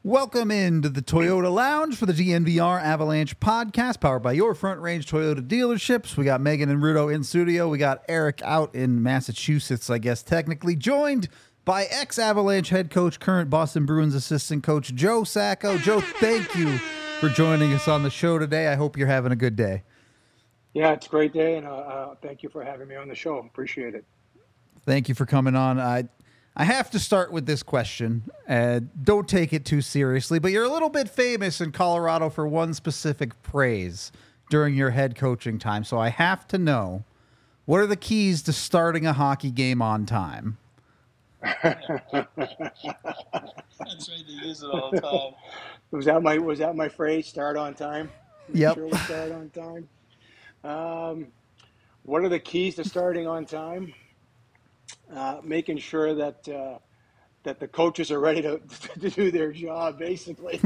Welcome into the Toyota Lounge for the DNVR Avalanche podcast, powered by your Front Range Toyota dealerships. We got Megan and Rudo in studio. We got Eric out in Massachusetts, I guess, technically, joined by ex-Avalanche head coach, current Boston Bruins assistant coach, Joe Sacco. Joe, thank you for joining us on the show today. I hope you're having a good day. Yeah, it's a great day, and thank you for having me on the show. Appreciate it. Thank you for coming on. I have to start with this question. Don't take it too seriously, but you're a little bit famous in Colorado for one specific praise during your head coaching time. So I have to know, what are the keys to starting a hockey game on time? That's right. They use it all the time. Was that my phrase? Start on time. Make Yep. sure we start on time. What are the keys to starting on time? Making sure that the coaches are ready to do their job, basically.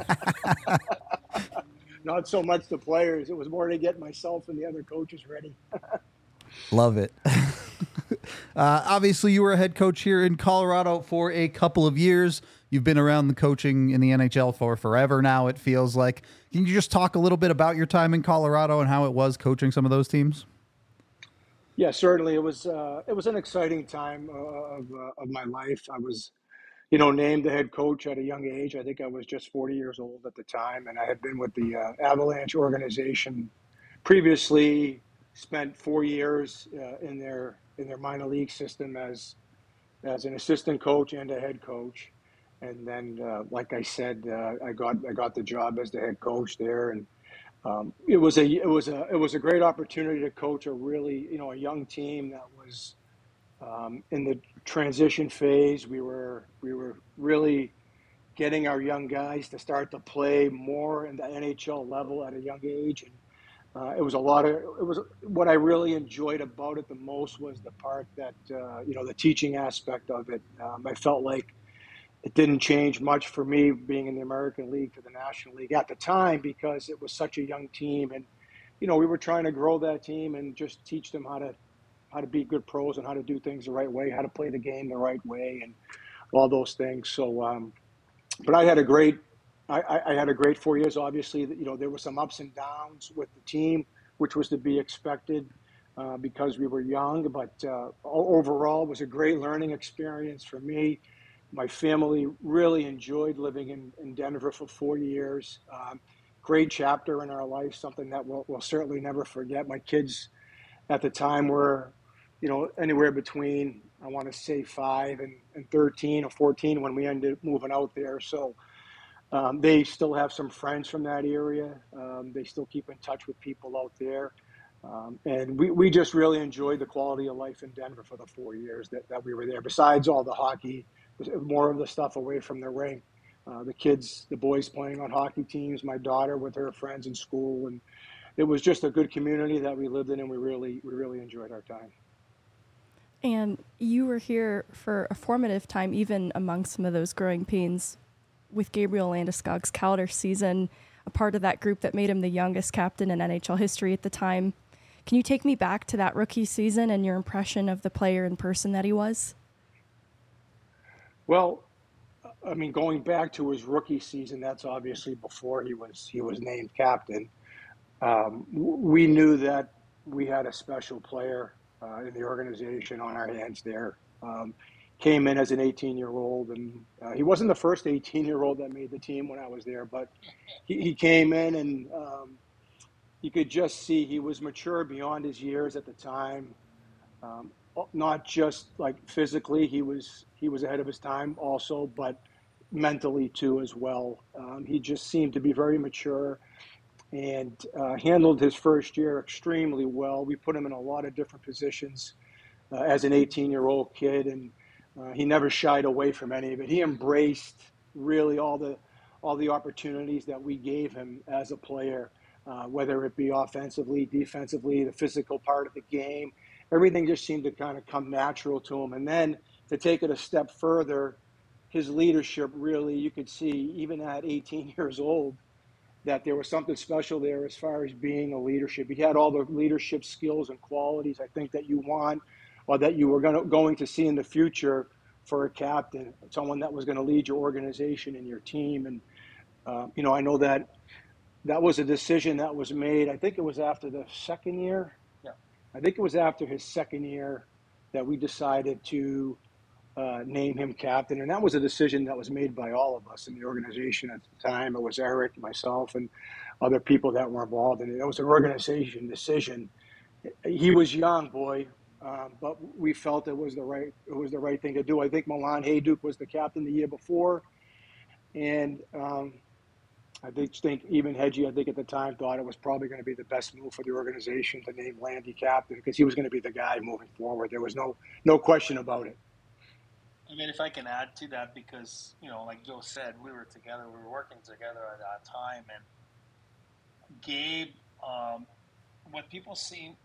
Not so much the players. It was more to get myself and the other coaches ready. Love it. Obviously, you were a head coach here in Colorado for a couple of years. You've been around the coaching in the NHL for forever now, it feels like. Can you just talk a little bit about your time in Colorado and how it was coaching some of those teams? Yeah, certainly. It was an exciting time of my life. I was, named the head coach at a young age. I think I was just 40 years old at the time, and I had been with the Avalanche organization previously. Spent 4 years in their minor league system as an assistant coach and a head coach, and then, like I said, I got the job as the head coach there, and it was a great opportunity to coach a really a young team that was in the transition phase. We were really getting our young guys to start to play more in the NHL level at a young age, and it was what I really enjoyed about it the most was the part that the teaching aspect of it. I felt like it didn't change much for me being in the American League to the National League at the time because it was such a young team, and we were trying to grow that team and just teach them how to be good pros and how to do things the right way, how to play the game the right way, and all those things. So, but I had a great 4 years. Obviously, there were some ups and downs with the team, which was to be expected because we were young. But overall, it was a great learning experience for me. My family really enjoyed living in Denver for 4 years. Great chapter in our life, something that we'll certainly never forget. My kids at the time were, anywhere between, I want to say 5 and 13 or 14 when we ended up moving out there. So they still have some friends from that area. They still keep in touch with people out there. And we just really enjoyed the quality of life in Denver for the 4 years that we were there. Besides all the hockey, more of the stuff away from the rink. The boys playing on hockey teams, my daughter with her friends in school. And it was just a good community that we lived in, and we really enjoyed our time. And you were here for a formative time, even among some of those growing pains, with Gabriel Landeskog's Calder season, a part of that group that made him the youngest captain in NHL history at the time. Can you take me back to that rookie season and your impression of the player and person that he was? Well, I mean, going back to his rookie season, that's obviously before he was named captain. We knew that we had a special player in the organization on our hands there. Came in as an 18-year-old, and he wasn't the first 18-year-old that made the team when I was there, but he came in, and you could just see he was mature beyond his years at the time. Not just like physically, he was ahead of his time also, but mentally too as well. He just seemed to be very mature and handled his first year extremely well. We put him in a lot of different positions as an 18-year-old kid, and he never shied away from any of it. He embraced really all the opportunities that we gave him as a player, whether it be offensively, defensively, the physical part of the game. Everything just seemed to kind of come natural to him. And then to take it a step further, his leadership really, you could see even at 18 years old, that there was something special there as far as being a leadership. He had all the leadership skills and qualities I think that you want or that you were going to see in the future for a captain, someone that was going to lead your organization and your team. And, I know that was a decision that was made. I think it was after the second year. Yeah. I think it was after his second year that we decided to name him captain. And that was a decision that was made by all of us in the organization at the time. It was Eric, myself, and other people that were involved in it. It was an organization decision. He was young, boy, but we felt it was the right thing to do. I think Milan Hajduk was the captain the year before, and I think even Hedgie, I think at the time, thought it was probably going to be the best move for the organization to name Landy captain because he was going to be the guy moving forward. There was no question about it. I mean, if I can add to that, because, like Joe said, we were working together at that time. And Gabe, what people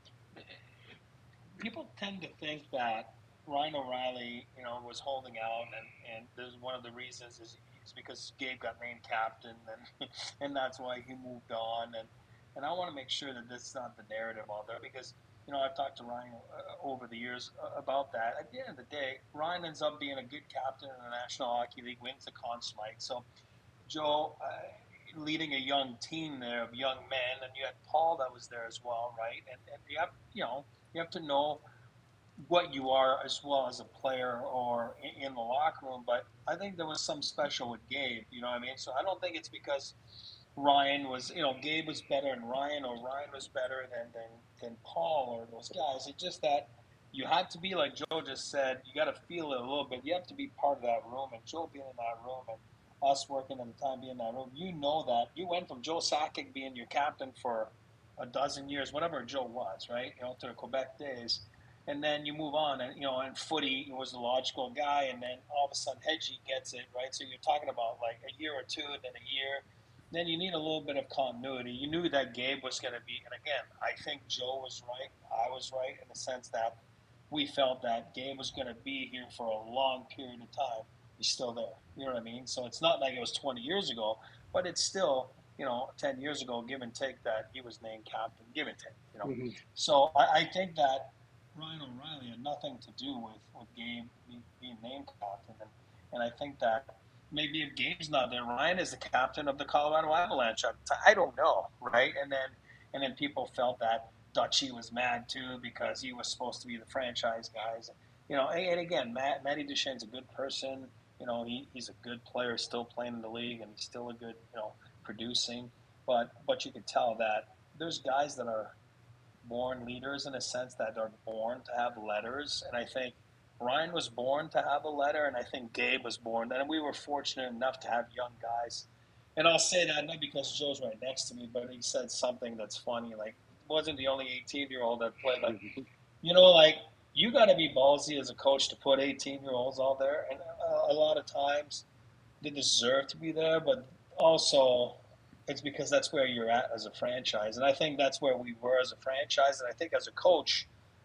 tend to think that Ryan O'Reilly, was holding out, and there's one of the reasons is because Gabe got named captain, and that's why he moved on. And I want to make sure that this is not the narrative out there, because I've talked to Ryan over the years about that. At the end of the day, Ryan ends up being a good captain in the National Hockey League, wins the Conn Smythe. So Joe, leading a young team there of young men, and you had Paul that was there as well, right? And you have to know what you are as well as a player or in the locker room. But I think there was some special with Gabe, you know what I mean? So I don't think it's because Ryan was, Gabe was better than Ryan, or Ryan was better than Paul or those guys. It's just that you had to be, like Joe just said, you got to feel it a little bit. You have to be part of that room, and Joe being in that room and us working at the time being in that room, that you went from Joe Sakic being your captain for a dozen years, whatever Joe was, right? To the Quebec days. And then you move on, and footy was the logical guy, and then all of a sudden Hedgie gets it, right? So you're talking about like a year or two, then a year. Then you need a little bit of continuity. You knew that Gabe was going to be, and again, I think Joe was right. I was right in the sense that we felt that Gabe was going to be here for a long period of time. He's still there. You know what I mean? So it's not like it was 20 years ago, but it's still, 10 years ago, give and take, that he was named captain, give and take, Mm-hmm. So I think that Ryan O'Reilly had nothing to do with Gabe being named captain. And I think that maybe if Gabe's not there, Ryan is the captain of the Colorado Avalanche. I don't know, right? And then people felt that Dutchy was mad too because he was supposed to be the franchise guys. And again, Matty Duchene's a good person. He's a good player, still playing in the league, and he's still a good, producing. But you could tell that there's guys that are born leaders in a sense, that are born to have letters. And I think Ryan was born to have a letter, and I think Gabe was born. And we were fortunate enough to have young guys. And I'll say that not because Joe's right next to me, but he said something that's funny. Like, wasn't the only 18-year-old that played. Like, you got to be ballsy as a coach to put 18-year-olds out there. And a lot of times they deserve to be there, but also it's because that's where you're at as a franchise. And I think that's where we were as a franchise. And I think as a coach,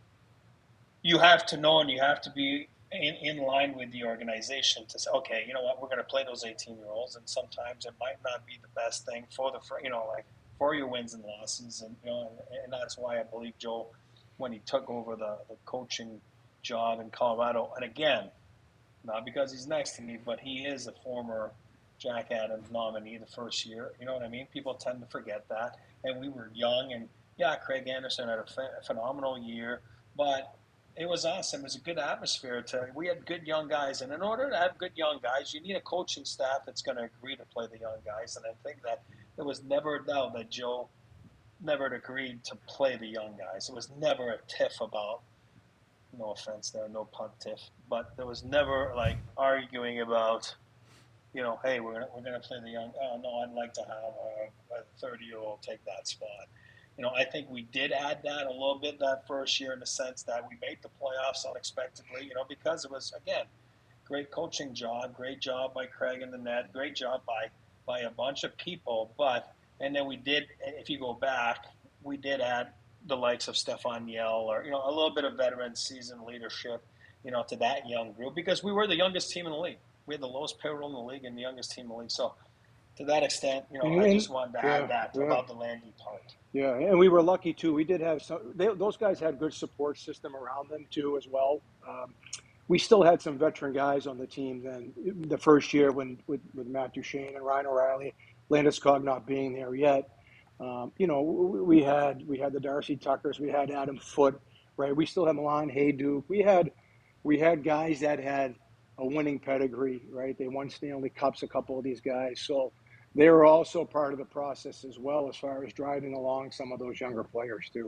you have to know and you have to be in line with the organization to say, okay, you know what, we're going to play those 18-year-olds. And sometimes it might not be the best thing for for your wins and losses. And, and that's why I believe Joe, when he took over the coaching job in Colorado, and again, not because he's next to me, but he is a former Jack Adams nominee the first year. You know what I mean? People tend to forget that. And we were young, and Craig Anderson had a phenomenal year, but it was awesome. It was a good atmosphere. We had good young guys, and in order to have good young guys, you need a coaching staff that's going to agree to play the young guys. And I think that there was never a doubt that Joe never agreed to play the young guys. It was never a tiff about, no offense there, no pun tiff, but there was never like arguing about, hey, we're gonna play the young. Oh no, I'd like to have a 30-year-old take that spot. I think we did add that a little bit that first year in the sense that we made the playoffs unexpectedly. Because it was, again, great coaching job, great job by Craig in the net, great job by a bunch of people. And then we did, if you go back, we did add the likes of Stefan Yell or a little bit of veteran seasoned leadership, to that young group because we were the youngest team in the league. We had the lowest payroll in the league and the youngest team in the league. So to that extent, I just wanted to add that about the Landy part. Yeah, and we were lucky too. We did have those guys had good support system around them too as well. we still had some veteran guys on the team then. The first year when with Matt Duchene and Ryan O'Reilly, Landeskog not being there yet, we had the Darcy Tuckers, we had Adam Foote, right? We still had Milan Hayduk. We had guys that had a winning pedigree, right? They won Stanley Cups, a couple of these guys, so they were also part of the process as well as far as driving along some of those younger players too.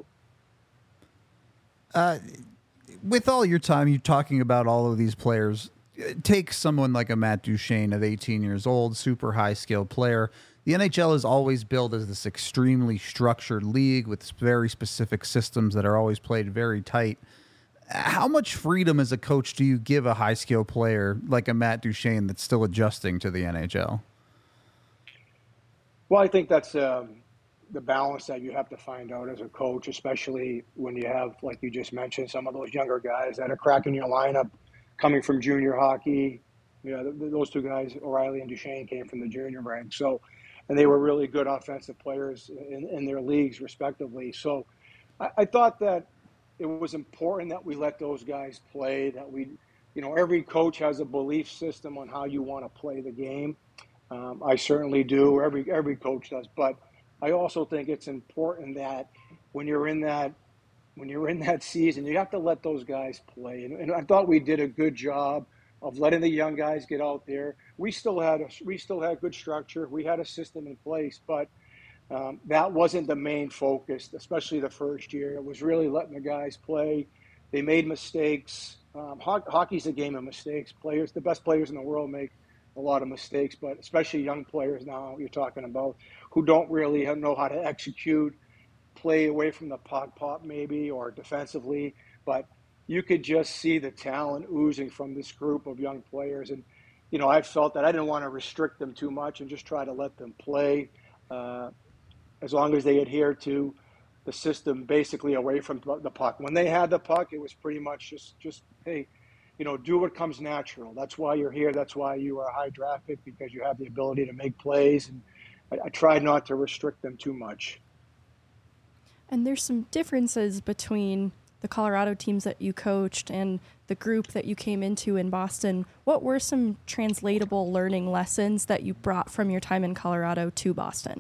With all your time, you talking about all of these players, take someone like a Matt Duchene at 18 years old, super high skilled player. The NHL is always billed as this extremely structured league with very specific systems that are always played very tight. How much freedom as a coach do you give a high skill player like a Matt Duchene that's still adjusting to the NHL? Well, I think that's the balance that you have to find out as a coach, especially when you have, like you just mentioned, some of those younger guys that are cracking your lineup coming from junior hockey. Those two guys, O'Reilly and Duchene, came from the junior ranks. So, and they were really good offensive players in their leagues, respectively. So I thought that it was important that we let those guys play, that every coach has a belief system on how you want to play the game. I certainly do. Every coach does. But I also think it's important that when you're in that season, you have to let those guys play. And I thought we did a good job of letting the young guys get out there. We still had good structure. We had a system in place, but that wasn't the main focus, especially the first year. It was really letting the guys play. They made mistakes. Hockey's a game of mistakes. The best players in the world make a lot of mistakes, but especially young players now you're talking about who don't really know how to execute, play away from the puck pop maybe, or defensively. But you could just see the talent oozing from this group of young players. And, I felt that I didn't want to restrict them too much and just try to let them play as long as they adhere to the system, basically away from the puck. When they had the puck, it was pretty much just hey, do what comes natural. That's why you're here. That's why you are a high draft pick, because you have the ability to make plays. And I tried not to restrict them too much. And there's some differences between the Colorado teams that you coached and the group that you came into in Boston. What were some translatable learning lessons that you brought from your time in Colorado to Boston?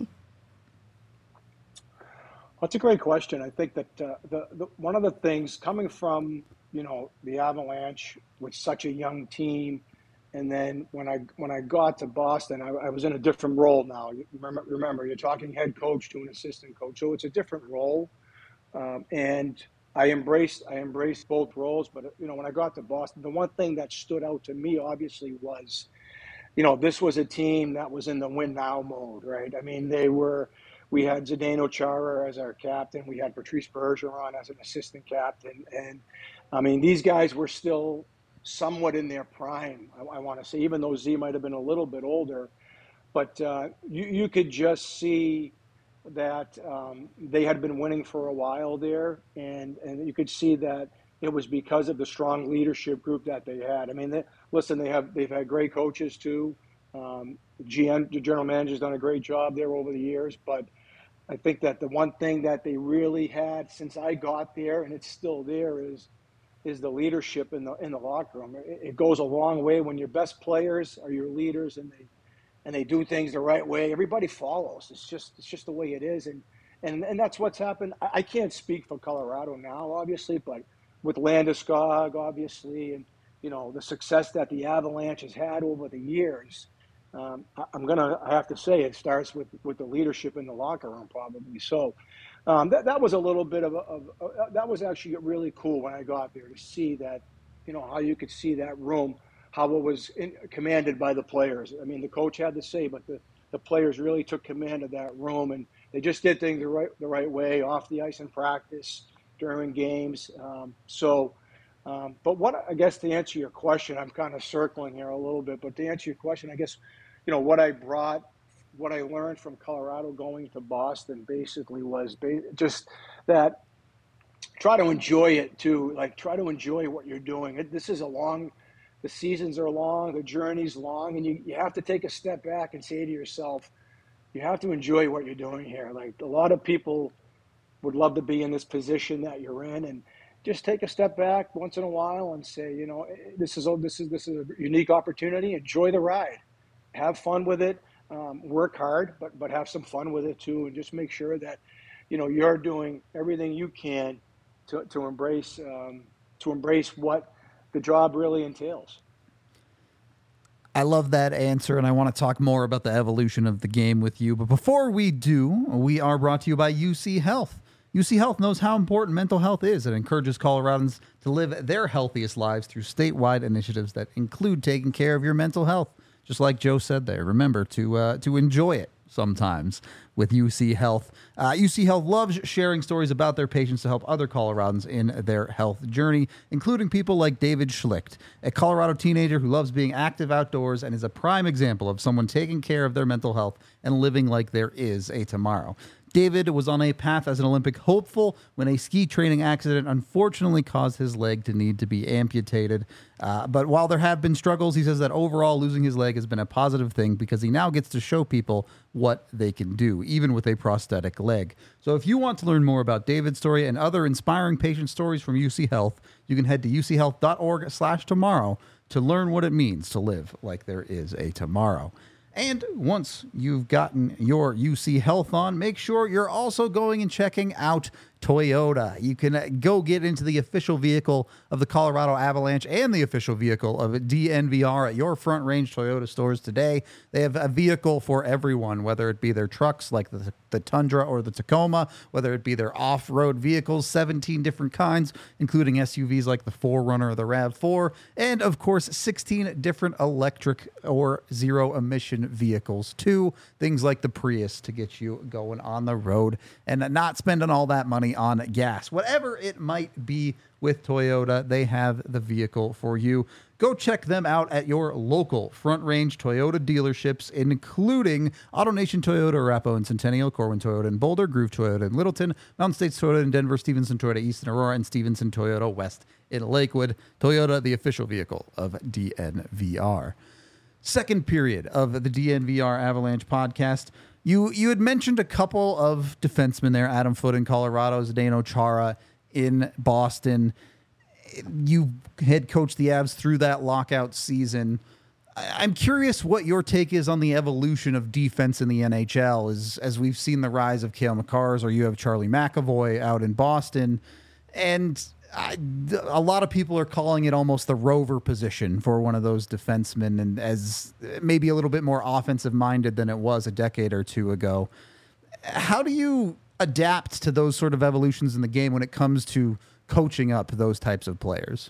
That's a great question. I think that the one of the things coming from the Avalanche with such a young team, and then when I got to Boston, I was in a different role now. You remember, you're talking head coach to an assistant coach, so it's a different role, and I embraced both roles. But when I got to Boston, the one thing that stood out to me obviously was, this was a team that was in the win now mode, right? I mean, we had Zdeno Chara as our captain. We had Patrice Bergeron as an assistant captain. And, I mean, these guys were still somewhat in their prime, I want to say, even though Z might have been a little bit older. But you could just see that they had been winning for a while there. And you could see that it was because of the strong leadership group that they had. I mean, they've had great coaches too. The general manager's done a great job there over the years, but I think that the one thing that they really had since I got there, and it's still there, is the leadership in the locker room. It goes a long way when your best players are your leaders, and they do things the right way. Everybody follows. It's just the way it is, and that's what's happened. I can't speak for Colorado now, obviously, but with Landeskog, obviously, and the success that the Avalanche has had over the years. I have to say it starts with the leadership in the locker room, probably. So that was a little bit that was actually really cool when I got there to see that, how you could see that room, how it was commanded by the players. I mean, the coach had to say, but the players really took command of that room, and they just did things the right way off the ice in practice, during games. But I guess to answer your question, I'm kind of circling here a little bit, but to answer your question, I guess, what I learned from Colorado going to Boston basically was just that try to enjoy it too. Like, try to enjoy what you're doing. The seasons are long, the journey's long, and you have to take a step back and say to yourself, you have to enjoy what you're doing here. Like, a lot of people would love to be in this position that you're in, and just take a step back once in a while and say, this is a unique opportunity. Enjoy the ride, have fun with it, work hard, but have some fun with it too, and just make sure that you're doing everything you can to embrace what the job really entails. I love that answer, and I want to talk more about the evolution of the game with you. But before we do, we are brought to you by UC Health. UC Health knows how important mental health is and encourages Coloradans to live their healthiest lives through statewide initiatives that include taking care of your mental health. Just like Joe said there, remember to enjoy it sometimes with UC Health. UC Health loves sharing stories about their patients to help other Coloradans in their health journey, including people like David Schlicht, a Colorado teenager who loves being active outdoors and is a prime example of someone taking care of their mental health and living like there is a tomorrow. David was on a path as an Olympic hopeful when a ski training accident unfortunately caused his leg to need to be amputated. But while there have been struggles, he says that overall losing his leg has been a positive thing because he now gets to show people what they can do, even with a prosthetic leg. So if you want to learn more about David's story and other inspiring patient stories from UC Health, you can head to uchealth.org/tomorrow to learn what it means to live like there is a tomorrow. And once you've gotten your UC Health on, make sure you're also going and checking out Toyota. You can go get into the official vehicle of the Colorado Avalanche and the official vehicle of DNVR at your Front Range Toyota stores today. They have a vehicle for everyone, whether it be their trucks like the Tundra or the Tacoma, whether it be their off-road vehicles, 17 different kinds, including SUVs like the 4Runner or the RAV4, and of course 16 different electric or zero-emission vehicles too, things like the Prius to get you going on the road and not spending all that money on gas. Whatever it might be with Toyota, they have the vehicle for you. Go check them out at your local Front Range Toyota dealerships, including AutoNation Toyota, Arapahoe and Centennial, Corwin Toyota in Boulder, Groove Toyota in Littleton, Mountain States Toyota in Denver, Stevenson Toyota East in Aurora, and Stevenson Toyota West in Lakewood. Toyota, the official vehicle of DNVR. Second period of the DNVR Avalanche podcast. You had mentioned a couple of defensemen there, Adam Foote in Colorado, Zdeno Chara in Boston. You head coached the Avs through that lockout season. I'm curious what your take is on the evolution of defense in the NHL as we've seen the rise of Cale Makars, or you have Charlie McAvoy out in Boston. And a lot of people are calling it almost the rover position for one of those defensemen, and as maybe a little bit more offensive minded than it was a decade or two ago. How do you adapt to those sort of evolutions in the game when it comes to coaching up those types of players?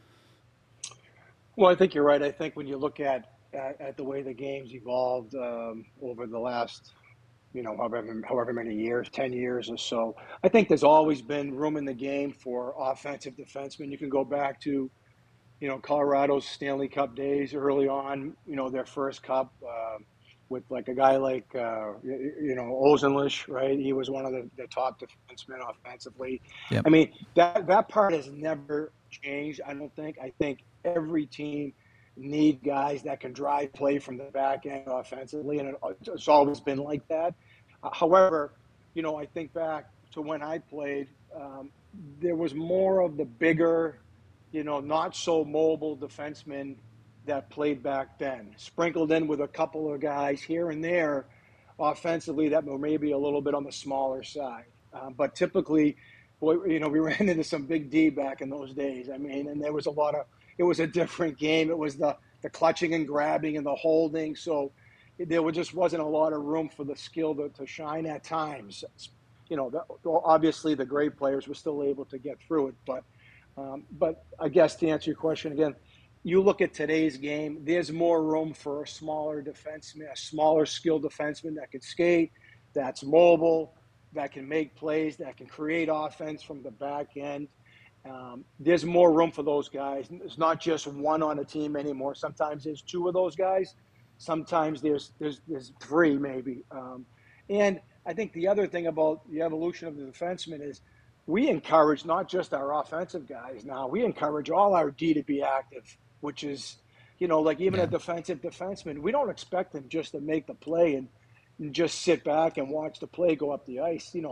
Well, I think you're right. I think when you look at the way the game's evolved over the last, however many years, 10 years or so, I think there's always been room in the game for offensive defensemen. You can go back to, Colorado's Stanley Cup days early on, their first cup with like a guy like, Ozenlish, right? He was one of the top defensemen offensively. Yep. I mean, that part has never changed, I don't think. I think every team need guys that can drive play from the back end offensively, and it's always been like that. However, I think back to when I played, there was more of the bigger, not so mobile defensemen that played back then, sprinkled in with a couple of guys here and there offensively that were maybe a little bit on the smaller side. But typically, we ran into some big D back in those days. I mean, and there was it was a different game. It was the clutching and grabbing and the holding. So there just wasn't a lot of room for the skill to shine at times. Obviously the great players were still able to get through it. But I guess to answer your question again, you look at today's game, there's more room for a smaller defenseman, a smaller skilled defenseman that can skate, that's mobile, that can make plays, that can create offense from the back end. There's more room for those guys. It's not just one on a team anymore. Sometimes there's two of those guys. Sometimes there's three maybe. And I think the other thing about the evolution of the defenseman is we encourage not just our offensive guys now. We encourage all our D to be active, which is, like even a defensive defenseman, we don't expect him just to make the play and just sit back and watch the play go up the ice.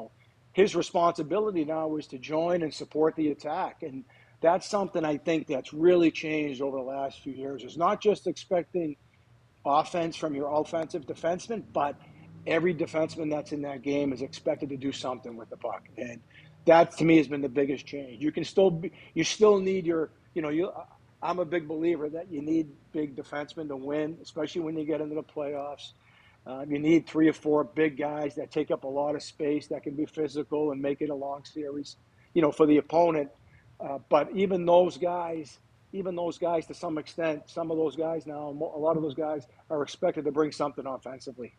his responsibility now is to join and support the attack. And that's something I think that's really changed over the last few years. It's not just expecting offense from your offensive defenseman, but every defenseman that's in that game is expected to do something with the puck. And that to me has been the biggest change. You still need I'm a big believer that you need big defensemen to win, especially when you get into the playoffs. You need 3 or 4 big guys that take up a lot of space, that can be physical and make it a long series, for the opponent. But even those guys, to some extent, some of those guys now, a lot of those guys are expected to bring something offensively.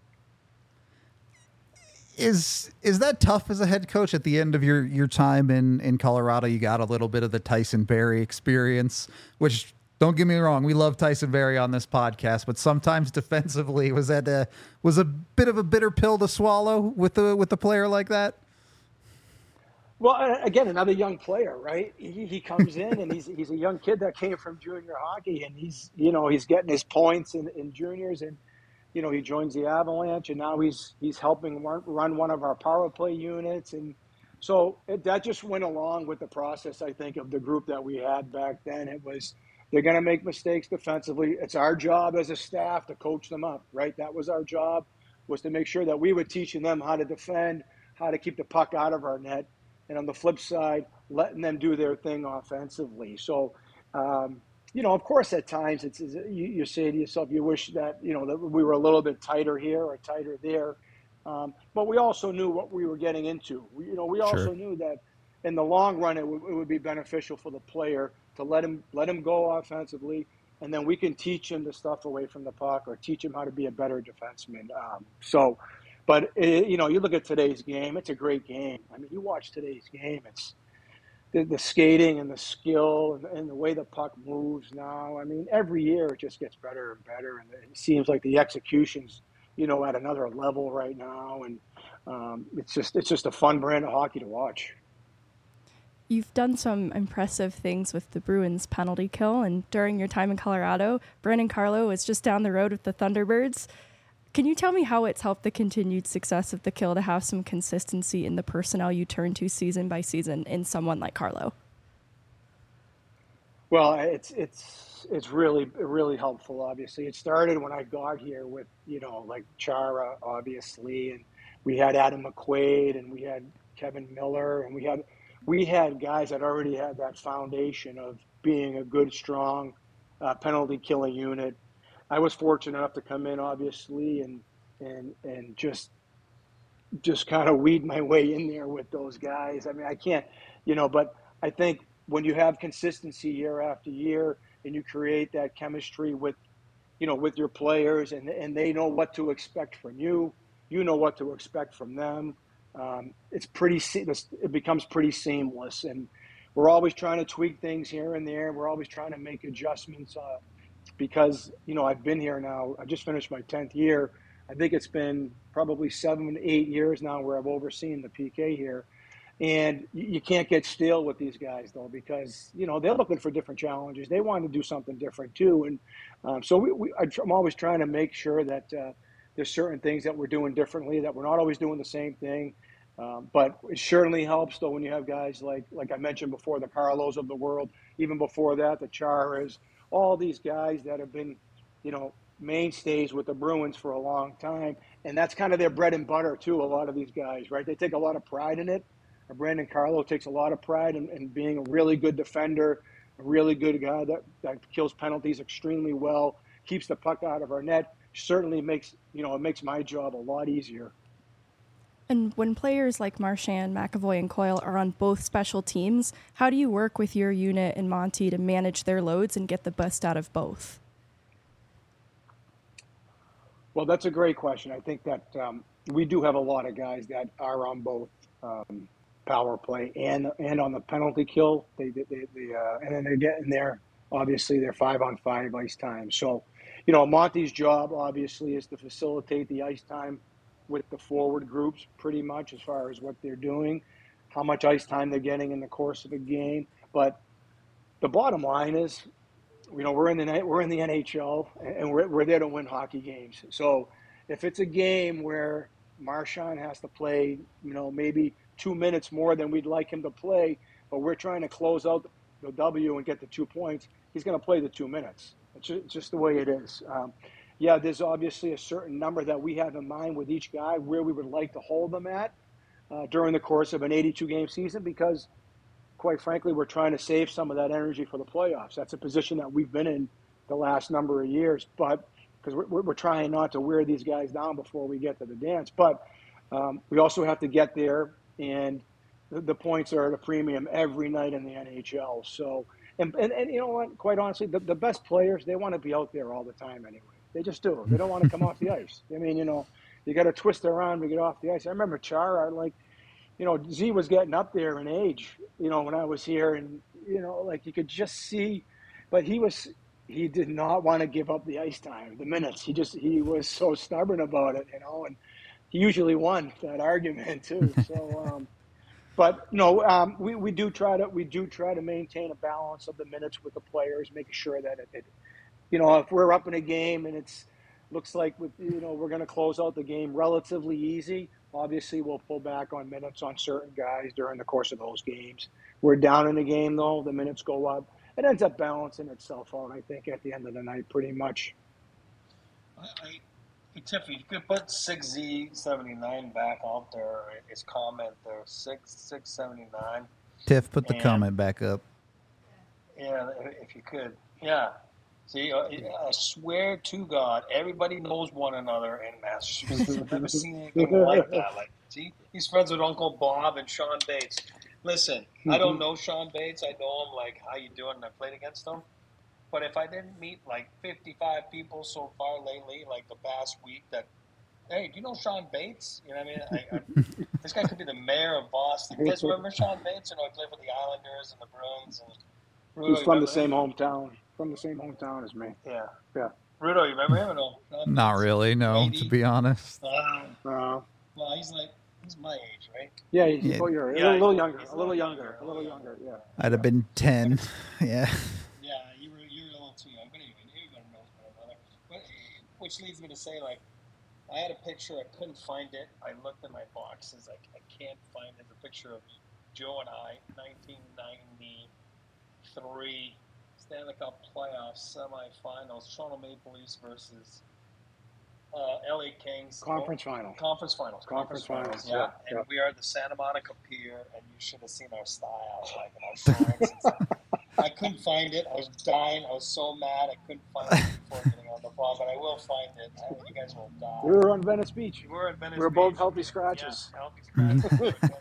Is that tough as a head coach at the end of your time in Colorado? You got a little bit of the Tyson Barrie experience, which, don't get me wrong, we love Tyson Barrie on this podcast, but sometimes defensively was a bit of a bitter pill to swallow with a player like that. Well, again, another young player, right? He comes in and he's a young kid that came from junior hockey, and he's getting his points in juniors, and he joins the Avalanche, and now he's helping run one of our power play units, and so that just went along with the process, I think, of the group that we had back then. It was, they're going to make mistakes defensively. It's our job as a staff to coach them up, right? That was our job, was to make sure that we were teaching them how to defend, how to keep the puck out of our net, and on the flip side, letting them do their thing offensively. So, of course, at times you say to yourself, you wish that that we were a little bit tighter here or tighter there, but we also knew what we were getting into. We also knew that in the long run it would be beneficial for the player to let him go offensively, and then we can teach him the stuff away from the puck or teach him how to be a better defenseman. But you look at today's game; it's a great game. I mean, you watch today's game; it's the skating and the skill and the way the puck moves now. I mean, every year it just gets better and better, and it seems like the execution's at another level right now, and it's just a fun brand of hockey to watch. You've done some impressive things with the Bruins penalty kill, and during your time in Colorado, Brandon Carlo was just down the road with the Thunderbirds. Can you tell me how it's helped the continued success of the kill to have some consistency in the personnel you turn to season by season in someone like Carlo? Well, it's really helpful. Obviously, it started when I got here with like Chara, obviously, and we had Adam McQuaid, and we had Kevin Miller, and we had guys that already had that foundation of being a good, strong penalty killing unit. I was fortunate enough to come in, obviously, and just kind of weed my way in there with those guys. I mean, I can't, but I think when you have consistency year after year and you create that chemistry with your players, and they know what to expect from you, you know what to expect from them. It becomes pretty seamless, and we're always trying to tweak things here and there. We're always trying to make adjustments. Because, I've been here now, I just finished my 10th year. I think it's been probably 7, 8 years now where I've overseen the PK here. And you can't get stale with these guys, though, because, they're looking for different challenges. They want to do something different, too. And so I'm always trying to make sure that there's certain things that we're doing differently, that we're not always doing the same thing. But it certainly helps, though, when you have guys like I mentioned before, the Carlos of the world, even before that, the Charas, all these guys that have been, mainstays with the Bruins for a long time. And that's kind of their bread and butter, too, a lot of these guys, right? They take a lot of pride in it. Brandon Carlo takes a lot of pride in being a really good defender, a really good guy that kills penalties extremely well, keeps the puck out of our net. Certainly makes my job a lot easier. And when players like Marchand, McAvoy, and Coyle are on both special teams, how do you work with your unit and Monty to manage their loads and get the best out of both? Well, that's a great question. I think that we do have a lot of guys that are on both power play and on the penalty kill. And then they get in there. Obviously, they're 5-on-5 ice time. So, Monty's job obviously is to facilitate the ice time with the forward groups, pretty much as far as what they're doing, how much ice time they're getting in the course of a game. But the bottom line is, we're in the NHL, and we're there to win hockey games. So if it's a game where Marshawn has to play, maybe 2 minutes more than we'd like him to play, but we're trying to close out the W and get the 2 points, he's going to play the 2 minutes. It's just the way it is. There's obviously a certain number that we have in mind with each guy where we would like to hold them at during the course of an 82-game season because, quite frankly, we're trying to save some of that energy for the playoffs. That's a position that we've been in the last number of years, but because we're trying not to wear these guys down before we get to the dance. But we also have to get there, and the points are at a premium every night in the NHL. So, and you know what? Quite honestly, the best players, they want to be out there all the time anyway. They just do. They don't want to come off the ice. I mean, you got to twist around to get off the ice. I remember Chara, Z was getting up there in age, when I was here, and, you could just see, but he did not want to give up the ice time, the minutes. He was so stubborn about it, and he usually won that argument too. So, but no, we do try to maintain a balance of the minutes with the players, making sure that if we're up in a game and looks like we're going to close out the game relatively easy. Obviously, we'll pull back on minutes on certain guys during the course of those games. We're down in the game, though. The minutes go up. It ends up balancing itself out, I think, at the end of the night, pretty much. Tiff, if you could put 6Z79 back out there, his comment there, 679. Tiff, put the comment back up. Yeah, if you could. Yeah. See, I swear to God, everybody knows one another in Massachusetts. I've never seen anything like that. See, he's friends with Uncle Bob and Sean Bates. Listen, I don't know Sean Bates. I know him, how you doing? And I played against him. But if I didn't meet 55 people so far lately, the past week, hey, do you know Sean Bates? You know what I mean? This guy could be the mayor of Boston. You guys remember Sean Bates? He played with the Islanders and the Bruins. He's from the same hometown. From the same hometown as me. Yeah. Yeah. Rudo, you remember him or no? Not really, no, 80? To be honest. Well, he's my age, right? Yeah, he's a little younger, yeah. I'd have been 10, yeah. Yeah, you were a little too young, but anyway, everybody knows one another. Which leads me to say, I had a picture, I couldn't find it. I looked in my boxes, I can't find it. The picture of Joe and I, 1993 Stanley Cup playoffs semifinals, Toronto Maple Leafs versus LA Kings. Conference finals. Yeah. And we are at the Santa Monica Pier, and you should have seen our style, in our shirts and stuff. I couldn't find it. I was dying. I was so mad. I couldn't find it before getting on the phone, but I will find it. You guys will die. We were on Venice Beach. We were at Venice Beach. We were both healthy scratches. Yeah, healthy scratches.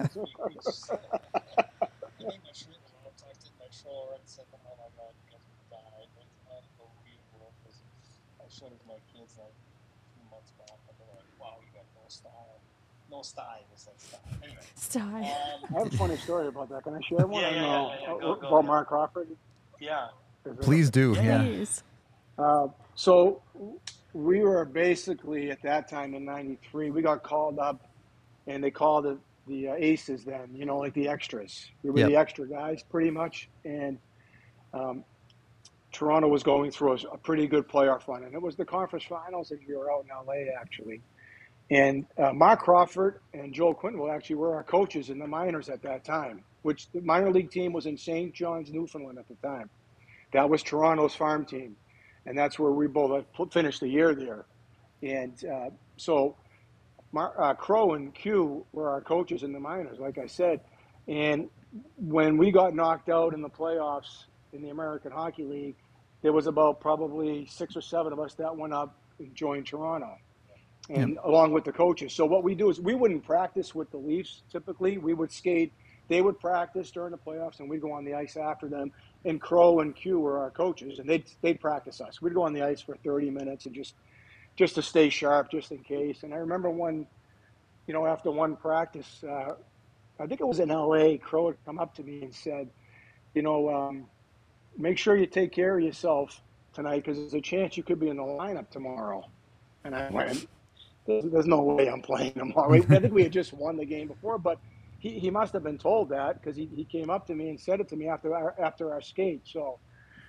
I think my shirt was all tucked in my shorts, and oh my God, you guys will die. It's unbelievable. I showed it to my kids a few months back, and they're like, wow, you got no style. No style, you said style. Anyway. Style. I have a funny story about that. Can I share one? Yeah. About Mark Crawford? Yeah. Please do, yeah. Please. So we were basically, at that time in 93, we got called up, and they called it the aces then, the extras. We were the extra guys, pretty much. And Toronto was going through a pretty good playoff run. And it was the conference finals, and we were out in L.A., actually. And Mark Crawford and Joel Quinville actually were our coaches in the minors at that time, which the minor league team was in St. John's, Newfoundland at the time. That was Toronto's farm team. And that's where we both finished the year there. And so Crow and Q were our coaches in the minors, like I said. And when we got knocked out in the playoffs in the American Hockey League, there was about probably 6 or 7 of us that went up and joined Toronto, and along with the coaches. So what we do is we wouldn't practice with the Leafs typically. We would skate. They would practice during the playoffs, and we'd go on the ice after them. And Crow and Q were our coaches, and they'd practice us. We'd go on the ice for 30 minutes and just to stay sharp, just in case. And I remember after one practice, I think it was in L.A., Crow had come up to me and said, make sure you take care of yourself tonight because there's a chance you could be in the lineup tomorrow. And I went, there's no way I'm playing tomorrow. I think we had just won the game before, but he must have been told that because he came up to me and said it to me after our skate. So,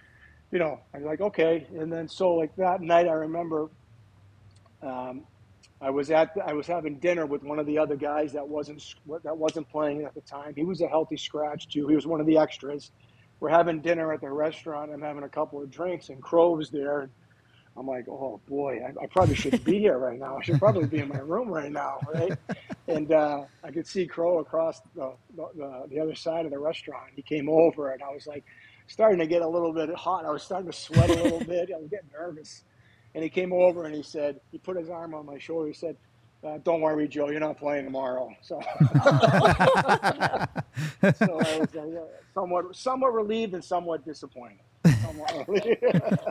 I'm like, okay. And then so like that night I remember I was having dinner with one of the other guys that wasn't playing at the time. He was a healthy scratch too. He was one of the extras. We're having dinner at the restaurant. I'm having a couple of drinks, and Crow was there. And I'm like, oh boy, I probably shouldn't be here right now. I should probably be in my room right now, right? And I could see Crow across the other side of the restaurant. He came over, and I was like, starting to get a little bit hot. I was starting to sweat a little bit. I was getting nervous. And he came over and he put his arm on my shoulder. He said, don't worry, Joe, you're not playing tomorrow. So, so I was somewhat relieved and somewhat disappointed. Somewhat relieved.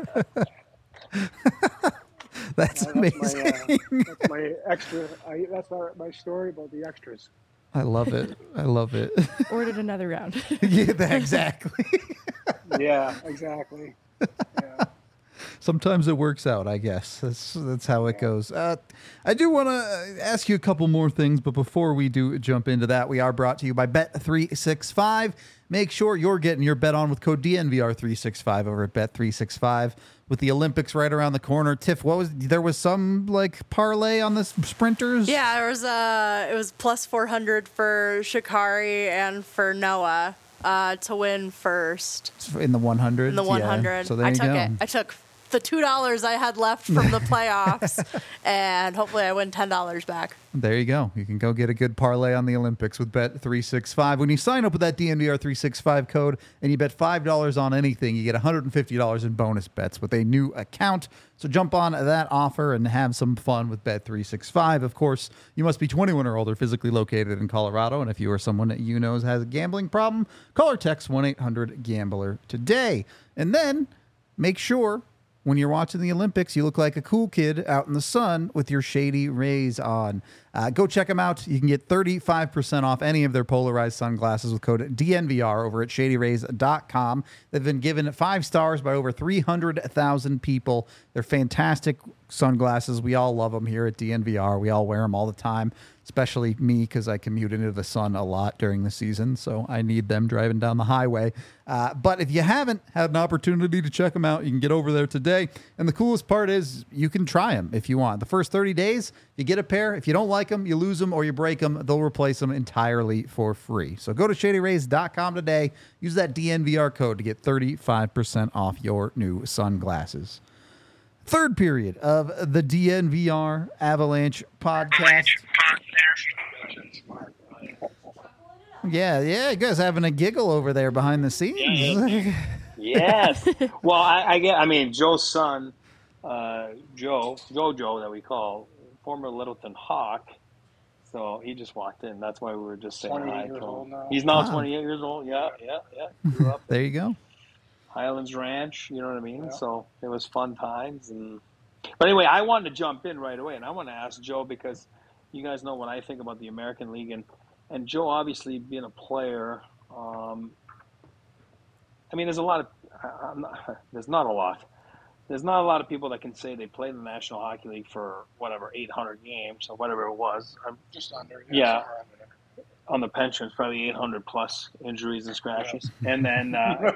That's amazing. That's my extra. That's my story about the extras. I love it. I love it. Ordered another round. Yeah, exactly. Yeah, exactly. Yeah. Sometimes it works out, I guess. That's how it goes. I do want to ask you a couple more things, but before we do jump into that, we are brought to you by Bet365. Make sure you're getting your bet on with code DNVR365 over at Bet365. With the Olympics right around the corner, Tiff, there was some like parlay on the sprinters? Yeah, it was plus 400 for Sha'Carri and for Noah to win first. In the 100? In the 100. Yeah. So there you go. I took the $2 I had left from the playoffs, and hopefully I win $10 back. There you go. You can go get a good parlay on the Olympics with Bet365. When you sign up with that DNVR365 code and you bet $5 on anything, you get $150 in bonus bets with a new account. So jump on that offer and have some fun with Bet365. Of course, you must be 21 or older, physically located in Colorado. And if you or someone that you know has a gambling problem, call or text 1-800-GAMBLER today. And then make sure when you're watching the Olympics, you look like a cool kid out in the sun with your Shady Rays on. Go check them out. You can get 35% off any of their polarized sunglasses with code DNVR over at ShadyRays.com. They've been given 5 stars by over 300,000 people. They're fantastic sunglasses. We all love them here at DNVR. We all wear them all the time, especially me because I commute into the sun a lot during the season, so I need them driving down the highway. But if you haven't had an opportunity to check them out, you can get over there today. And the coolest part is you can try them if you want. The first 30 days, you get a pair. If you don't like them, you lose them or you break them, they'll replace them entirely for free. So go to ShadyRays.com today. Use that DNVR code to get 35% off your new sunglasses. Third period of the DNVR Avalanche podcast. Yeah, you guys having a giggle over there behind the scenes. Yes. Well, I mean, Joe's son, Jojo that we call, former Littleton Hawk. So he just walked in. That's why we were just saying hi to him. He's now 28 years old. Yeah. Grew up there you go. Highlands Ranch, you know what I mean? Yeah. So it was fun times. But anyway, I wanted to jump in right away, and I want to ask Joe because you guys know what I think about the American League. And Joe, obviously, being a player, I mean, there's not a lot of people that can say they played in the National Hockey League for, 800 games or whatever it was. Just under. Yeah. On the pensions, probably 800 plus injuries and scratches. Yeah. And then,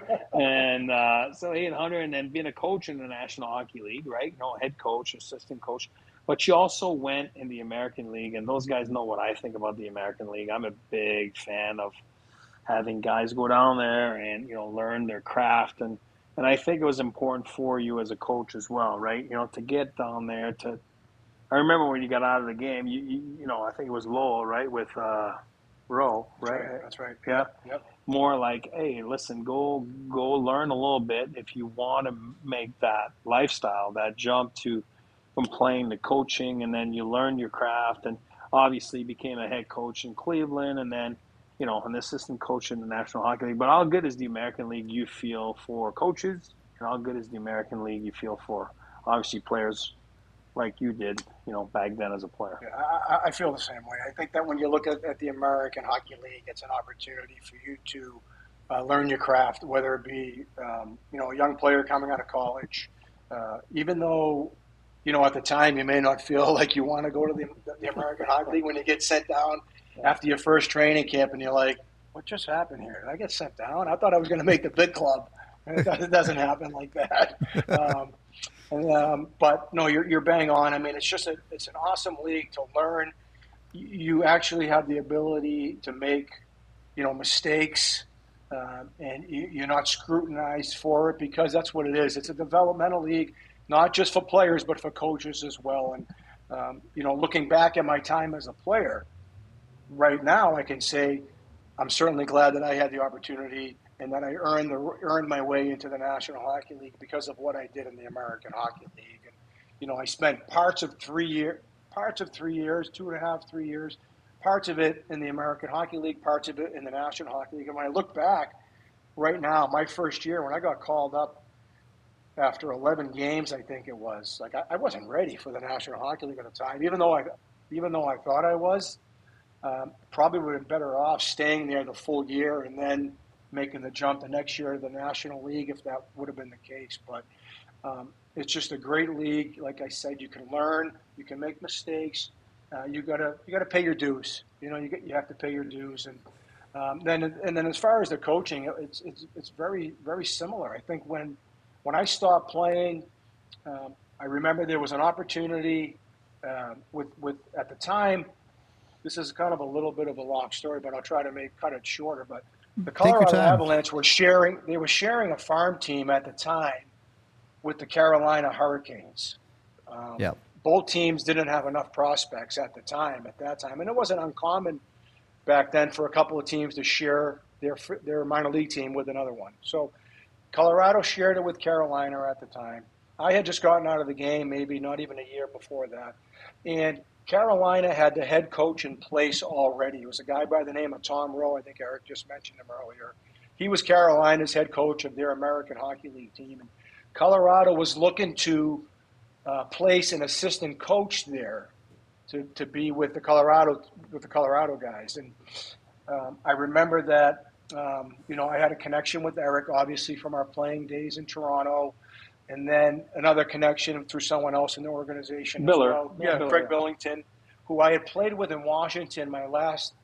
so 800, and then being a coach in the National Hockey League, right? Head coach, assistant coach. But you also went in the American League, and those guys know what I think about the American League. I'm a big fan of having guys go down there and, learn their craft. And I think it was important for you as a coach as well, right? To get down there I remember when you got out of the game, I think it was Lowell, right? With, Rowe, right? That's right. Yeah. Yep. More like, hey, listen, go learn a little bit if you want to make that lifestyle, that jump from playing to coaching, and then you learn your craft, and obviously became a head coach in Cleveland, and then an assistant coach in the National Hockey League. But how good is the American League you feel for coaches, and how good is the American League you feel for obviously players like you did, back then as a player? Yeah, I feel the same way. I think that when you look at the American Hockey League, it's an opportunity for you to learn your craft, whether it be, a young player coming out of college. Even though, at the time you may not feel like you want to go to the American Hockey League, when you get sent down after your first training camp and you're like, what just happened here? Did I get sent down? I thought I was going to make the big club. It doesn't happen like that. But no, you're bang on. I mean, it's an awesome league to learn. You actually have the ability to make, mistakes, and you're not scrutinized for it because that's what it is. It's a developmental league, not just for players but for coaches as well. And looking back at my time as a player, right now I can say I'm certainly glad that I had the opportunity and that I earned my way into the National Hockey League because of what I did in the American Hockey League. And I spent parts of 3 years, 2.5, 3 years, parts of it in the American Hockey League, parts of it in the National Hockey League. And when I look back right now, my first year when I got called up after 11 games, I think it was, like I wasn't ready for the National Hockey League at the time, even though I thought I was. Probably would have been better off staying there the full year and then making the jump the next year to the National League if that would have been the case. But it's just a great league. Like I said, you can learn, you can make mistakes. You gotta pay your dues. You have to pay your dues. And then as far as the coaching, it's very, very similar. I think when I stopped playing, I remember there was an opportunity with at the time. This is kind of a little bit of a long story, but I'll try to cut it shorter. But the Colorado Avalanche were sharing a farm team at the time with the Carolina Hurricanes. Both teams didn't have enough prospects at that time, and it wasn't uncommon back then for a couple of teams to share their minor league team with another one. So Colorado shared it with Carolina at the time. I had just gotten out of the game, maybe not even a year before that, and Carolina had the head coach in place already. It was a guy by the name of Tom Rowe. I think Eric just mentioned him earlier. He was Carolina's head coach of their American Hockey League team. And Colorado was looking to place an assistant coach there to be with the Colorado guys. And I remember that I had a connection with Eric, obviously from our playing days in Toronto. And then another connection through someone else in the organization. Biller. As well. Yeah, Craig Billington, who I had played with in Washington my last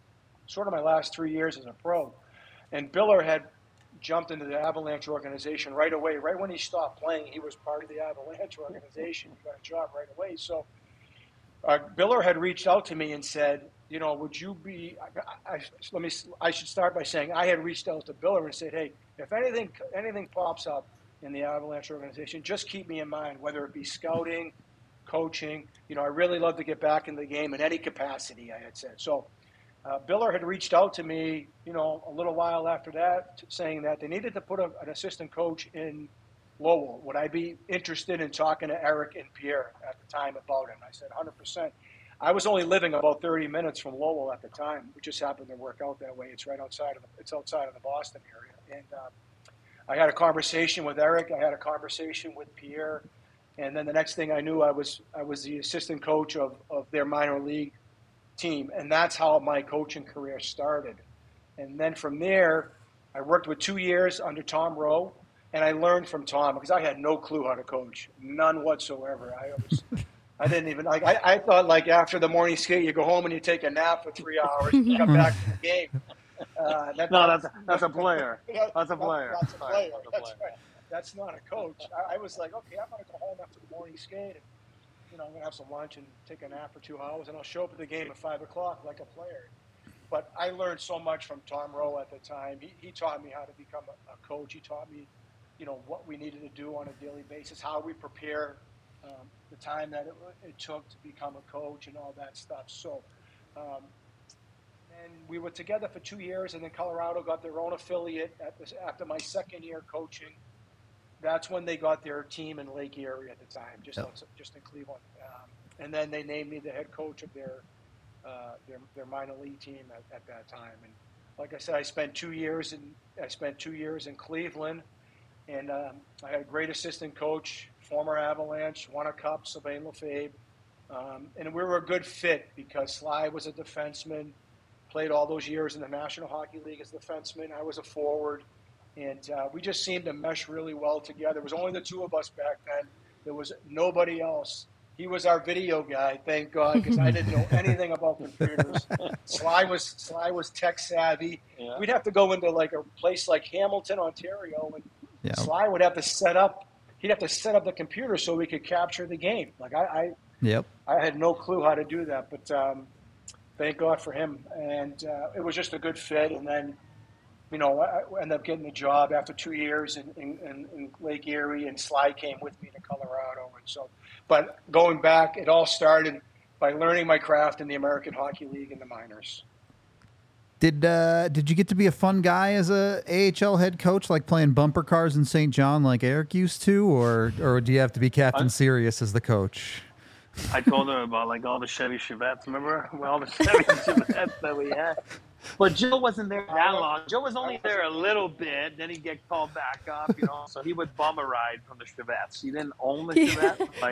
3 years as a pro. And Biller had jumped into the Avalanche organization right away. Right when he stopped playing, he was part of the Avalanche organization. He got a job right away. So Biller had reached out to me and said, would you be – I should start by saying I had reached out to Biller and said, hey, if anything pops up in the Avalanche organization, just keep me in mind, whether it be scouting, coaching. I really love to get back in the game in any capacity, I had said. So Biller had reached out to me, a little while after that, saying that they needed to put an assistant coach in Lowell. Would I be interested in talking to Eric and Pierre at the time about it? And I said 100%. I was only living about 30 minutes from Lowell at the time. It just happened to work out that way. It's outside of the Boston area. And I had a conversation with Eric. I had a conversation with Pierre, and then the next thing I knew, I was the assistant coach of their minor league team, and that's how my coaching career started. And then from there, I worked with 2 years under Tom Rowe, and I learned from Tom because I had no clue how to coach, none whatsoever. I didn't even like. I thought like after the morning skate, you go home and you take a nap for 3 hours, and you come back to the game. That's a player. That's a player. That's a player. That's right. That's not a coach. I was like, okay, I'm going to go home after the morning skate, and I'm going to have some lunch and take a nap for 2 hours, and I'll show up at the game at 5 o'clock like a player. But I learned so much from Tom Rowe at the time. He taught me how to become a coach. He taught me, what we needed to do on a daily basis, how we prepare, the time that it took to become a coach, and all that stuff. So. And we were together for 2 years, and then Colorado got their own affiliate after my second year coaching. That's when they got their team in Lake Erie at the time, just in Cleveland. And then they named me the head coach of their minor league team at that time. And like I said, I spent 2 years in Cleveland, and I had a great assistant coach, former Avalanche, won a cup, Sylvain Lefebvre. And we were a good fit because Sly was a defenseman. Played all those years in the National Hockey League as a defenseman. I was a forward, and we just seemed to mesh really well together. It was only the two of us back then. There was nobody else. He was our video guy, thank God, because I didn't know anything about computers. Sly was tech savvy. Yeah. We'd have to go into like a place like Hamilton, Ontario, and Sly would have to set up he'd have to set up the computer so we could capture the game. Like Yep. I had no clue how to do that, but thank God for him. And it was just a good fit. And then, I ended up getting the job after 2 years in Lake Erie, and Sly came with me to Colorado. And so, but going back, it all started by learning my craft in the American Hockey League in the minors. Did you get to be a fun guy as a AHL head coach, like playing bumper cars in St. John like Eric used to, or do you have to be Captain Serious as the coach? I told her about like all the Chevy Chevettes. Remember all the Chevy Chevettes that we had? But Joe wasn't there that long. Joe was only there a little bit. Then he'd get called back up, So he would bum a ride from the Chevettes. He didn't own the Chevette. Like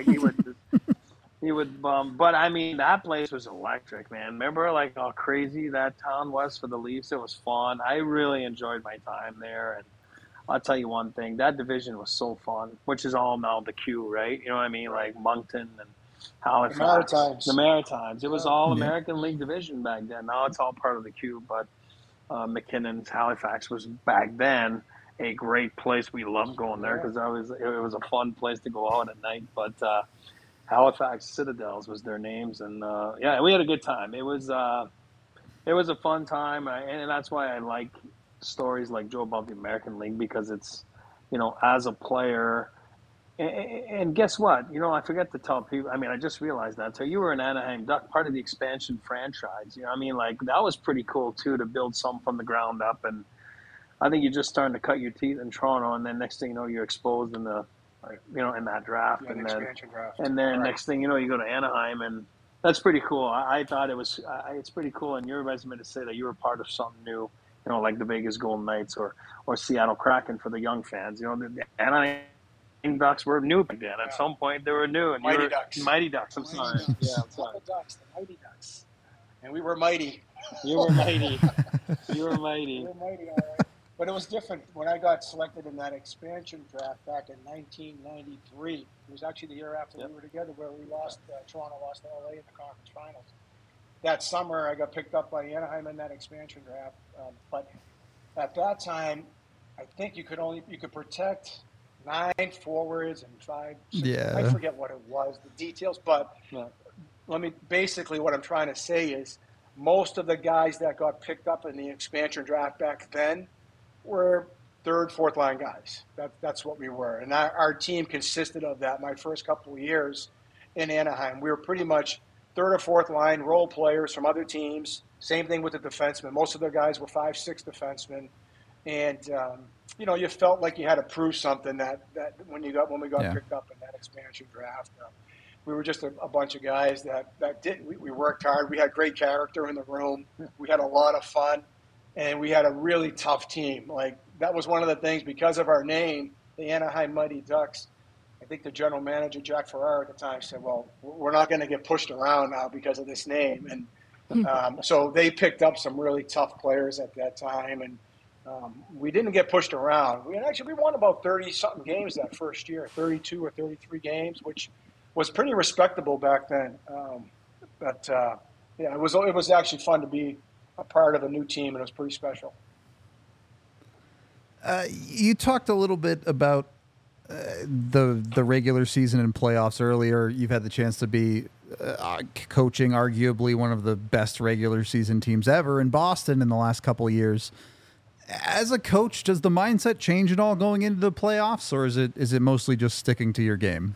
he would bum. But I mean, that place was electric, man. Remember like how crazy that town was for the Leafs? It was fun. I really enjoyed my time there. And I'll tell you one thing, that division was so fun, which is all now the Q, right? You know what I mean? Like Moncton and Halifax. The Maritimes. It was all American League division back then. Now it's all part of the Q, but McKinnon's Halifax was back then a great place. We loved going there because it was a fun place to go out at night. But Halifax Citadels was their names, and we had a good time. It was a fun time, and that's why I like stories like Joe about the American League, because it's, as a player. And guess what? I forget to tell people. I mean, I just realized that. So you were an Anaheim Duck, part of the expansion franchise. I mean, like that was pretty cool too, to build some from the ground up. And I think you're just starting to cut your teeth in Toronto, and then next thing you know, you're exposed in the, in that draft, Yeah, expansion draft. And then next thing you know, you go to Anaheim, and that's pretty cool. I thought it was. It's pretty cool in your resume to say that you were part of something new. Like the Vegas Golden Knights or Seattle Kraken for the young fans. The Anaheim Ducks were new back then. At some point, they were new. And Mighty Ducks. Mighty Ducks. I'm sorry. Yeah, I'm sorry. The Mighty Ducks. And we were mighty. You were mighty. You were mighty. We were mighty, all right. But it was different when I got selected in that expansion draft back in 1993. It was actually the year after we were together, where we lost. Toronto lost to LA in the conference finals. That summer, I got picked up by Anaheim in that expansion draft. But at that time, I think you could protect 9 forwards and 5. I forget what it was, the details. But basically what I'm trying to say is most of the guys that got picked up in the expansion draft back then were third, fourth line guys. That's what we were. And our team consisted of that. My first couple of years in Anaheim, we were pretty much third or fourth line role players from other teams. Same thing with the defensemen. Most of the guys were 5-6 defensemen. And, you felt like you had to prove something that when we got picked up in that expansion draft. We were just a bunch of guys that didn't. We worked hard. We had great character in the room. We had a lot of fun. And we had a really tough team. Like, that was one of the things, because of our name, the Anaheim Mighty Ducks. I think the general manager, Jack Ferrara, at the time said, well, we're not going to get pushed around now because of this name. And so they picked up some really tough players at that time. And we didn't get pushed around. We won about 30-something games that first year, 32 or 33 games, which was pretty respectable back then. It was actually fun to be a part of a new team, and it was pretty special. You talked a little bit about the regular season and playoffs earlier. You've had the chance to be coaching arguably one of the best regular season teams ever in Boston in the last couple of years. As a coach, does the mindset change at all going into the playoffs, or is it mostly just sticking to your game?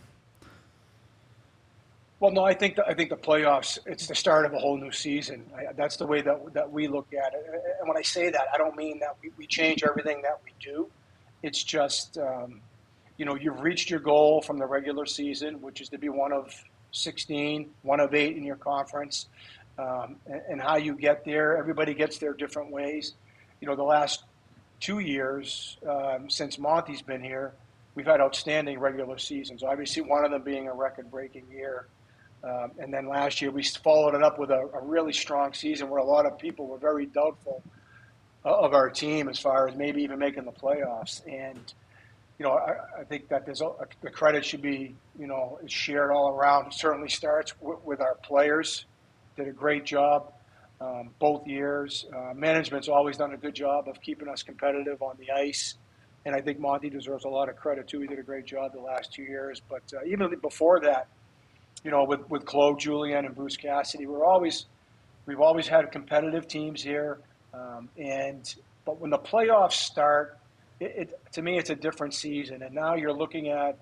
Well, no, I think the playoffs, it's the start of a whole new season. That's the way that we look at it. And when I say that, I don't mean that we change everything that we do. It's just, you've reached your goal from the regular season, which is to be one of 16, one of 8 in your conference. And how you get there, everybody gets there different ways. The last 2 years since Monty's been here, we've had outstanding regular seasons. Obviously, one of them being a record-breaking year. And then last year, we followed it up with a really strong season where a lot of people were very doubtful of our team as far as maybe even making the playoffs. And, I think that the credit should be, shared all around. It certainly starts with our players. Did a great job both years. Management's always done a good job of keeping us competitive on the ice. And I think Monty deserves a lot of credit too. He did a great job the last 2 years. But even before that, with Claude Julien and Bruce Cassidy, we've always had competitive teams here. But when the playoffs start, to me, it's a different season. And now you're looking at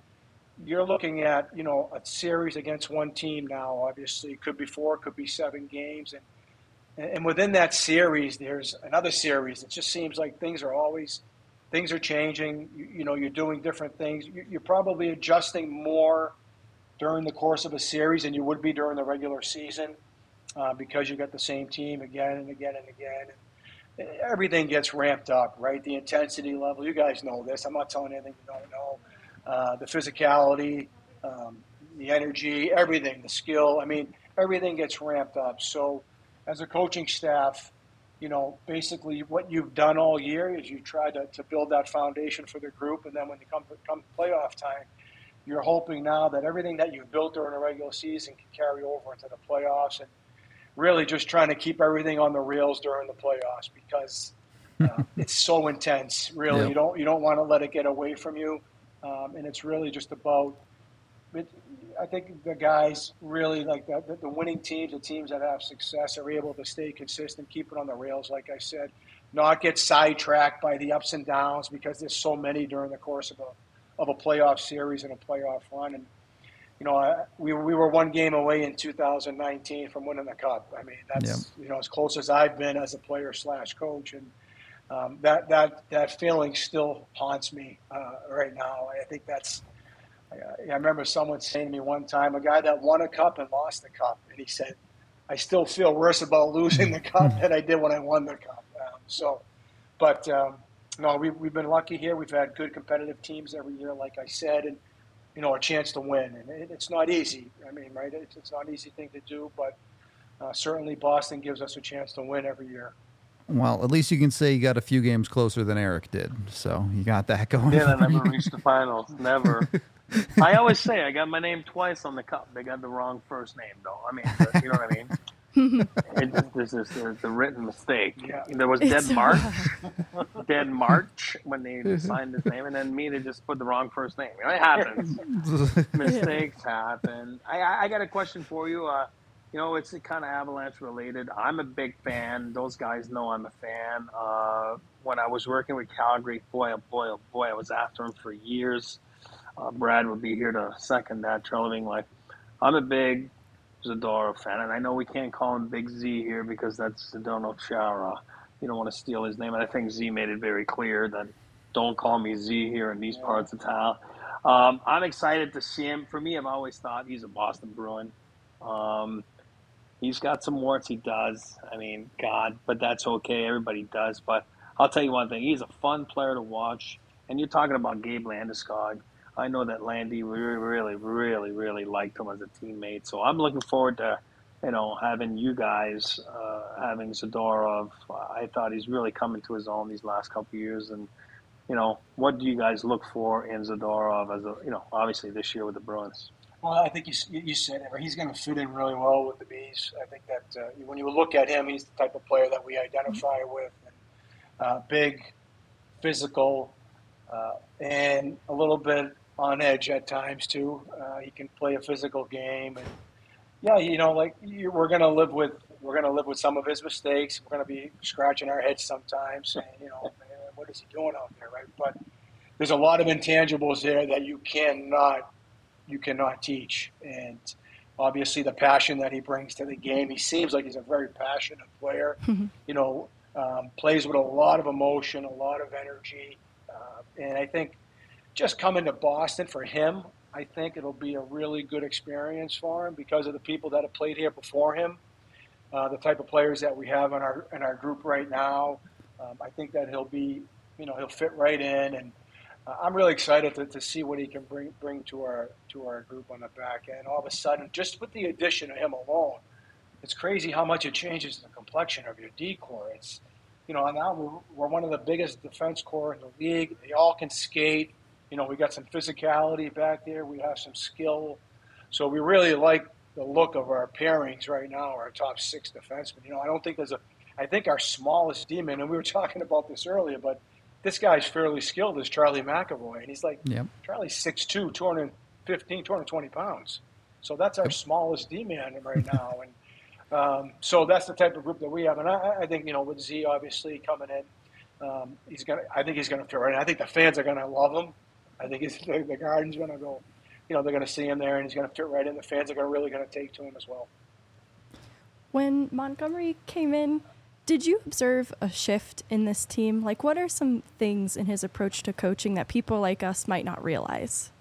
a series against one team now. Obviously, it could be 4, could be 7 games, and within that series, there's another series. It just seems like things are changing. You're doing different things. You're probably adjusting more during the course of a series than you would be during the regular season, because you got the same team again and again and again. And everything gets ramped up, right? The intensity level. You guys know this. I'm not telling anything you don't know. The physicality, the energy, everything, the skill. I mean, everything gets ramped up. So as a coaching staff, basically what you've done all year is you try to build that foundation for the group. And then when you come playoff time, you're hoping now that everything that you've built during the regular season can carry over into the playoffs, and really just trying to keep everything on the rails during the playoffs, because it's so intense. Really, Yep. you don't want to let it get away from you. And it's really just about I think the guys really like the winning teams, the teams that have success, are able to stay consistent, keep it on the rails, like I said, not get sidetracked by the ups and downs, because there's so many during the course of a playoff series and a playoff run. And we were one game away in 2019 from winning the cup. I mean, that's as close as I've been as a player / coach, and that feeling still haunts me right now. I think that's. I remember someone saying to me one time, a guy that won a cup and lost the cup, and he said, "I still feel worse about losing the cup than I did when I won the cup." No, we've been lucky here. We've had good competitive teams every year, like I said, and a chance to win. And it's not easy. I mean, right? It's not an easy thing to do, but certainly Boston gives us a chance to win every year. Well, at least you can say you got a few games closer than Eric did. So you got that going. Yeah, I never reached the finals. Never. I always say I got my name twice on the cup. They got the wrong first name, though. I mean, you know what I mean? This is the written mistake. Yeah. There was Dead March when they signed his name, and then me, they just put the wrong first name. It happens. Mistakes happen. I got a question for you. It's kind of Avalanche related. I'm a big fan. Those guys know I'm a fan. When I was working with Calgary, boy, I was after him for years. Brad would be here to second that. Treleving, I'm a big Zadorov fan, and I know we can't call him Big Z here because that's Zdeno Chara. You don't want to steal his name, and I think Z made it very clear that don't call me Z here in these parts of town. I'm excited to see him. For me, I've always thought he's a Boston Bruin. He's got some warts, he does. I mean, God, but that's okay. Everybody does. But I'll tell you one thing. He's a fun player to watch. And you're talking about Gabe Landeskog. I know that Landy really, really, really liked him as a teammate. So I'm looking forward to, having you guys, having Zadorov. I thought he's really coming to his own these last couple of years. And, what do you guys look for in Zadorov as obviously this year with the Bruins? Well, I think you said it. He's going to fit in really well with the Bees. I think that when you look at him, he's the type of player that we identify with. Big, physical, and a little bit on edge at times too. He can play a physical game, and we're going to live with some of his mistakes. We're going to be scratching our heads sometimes, saying, man, what is he doing out there, right? But there's a lot of intangibles there that you cannot teach. And obviously the passion that he brings to the game, he seems like he's a very passionate player, plays with a lot of emotion, a lot of energy. And I think just coming to Boston for him, I think it'll be a really good experience for him because of the people that have played here before him, the type of players that we have in our group right now. I think that he'll fit right in, and I'm really excited to see what he can bring to our group on the back end. All of a sudden, just with the addition of him alone, it's crazy how much it changes the complexion of your D-core. It's now we're one of the biggest defense corps in the league. They all can skate. We got some physicality back there. We have some skill. So we really like the look of our pairings right now, our top 6 defensemen. I don't think I think our smallest D-man, and we were talking about this earlier, but this guy's fairly skilled, is Charlie McAvoy. And he's like, Yep. Charlie's 6'2", 215, 220 pounds. So that's our smallest D-man right now. And so that's the type of group that we have. And I think, with Z obviously coming in, I think he's going to fit right in. I think the fans are going to love him. I think the Garden's going to go, they're going to see him there, and he's going to fit right in. The fans are really going to take to him as well. When Montgomery came in, did you observe a shift in this team? Like, what are some things in his approach to coaching that people like us might not realize?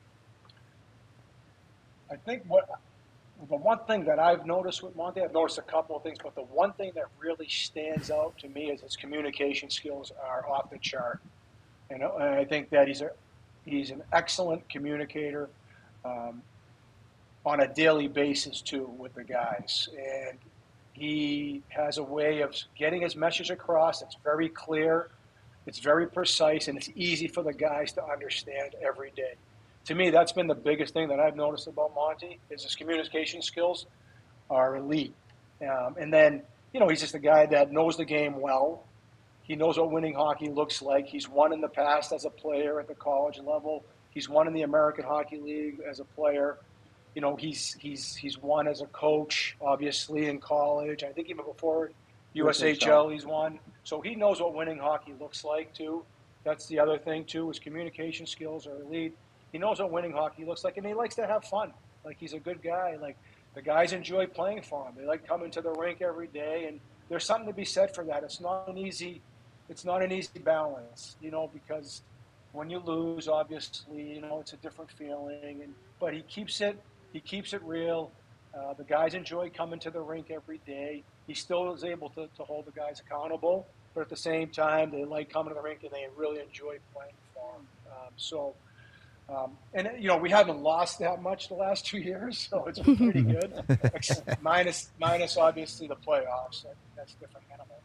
I think the one thing that I've noticed with Monty, I've noticed a couple of things, but the one thing that really stands out to me is his communication skills are off the chart. And I think that he's an excellent communicator on a daily basis, too, with the guys. And he has a way of getting his message across. It's very clear, it's very precise, and it's easy for the guys to understand every day. To me, that's been the biggest thing that I've noticed about Monty, is his communication skills are elite. And then, he's just a guy that knows the game well. He knows what winning hockey looks like. He's won in the past as a player at the college level. He's won in the American Hockey League as a player. He's won as a coach, obviously, in college. I think even before USHL he's won. So he knows what winning hockey looks like, too. That's the other thing, too. His communication skills are elite. He knows what winning hockey looks like, and he likes to have fun. Like, he's a good guy. Like, the guys enjoy playing for him. They like coming to the rink every day, and there's something to be said for that. It's not an easy balance, because when you lose, obviously, it's a different feeling. But he keeps it real. The guys enjoy coming to the rink every day. He still is able to hold the guys accountable, but at the same time, they like coming to the rink and they really enjoy playing for him. And we haven't lost that much the last 2 years, so it's been pretty good. minus obviously the playoffs. That's a different animal,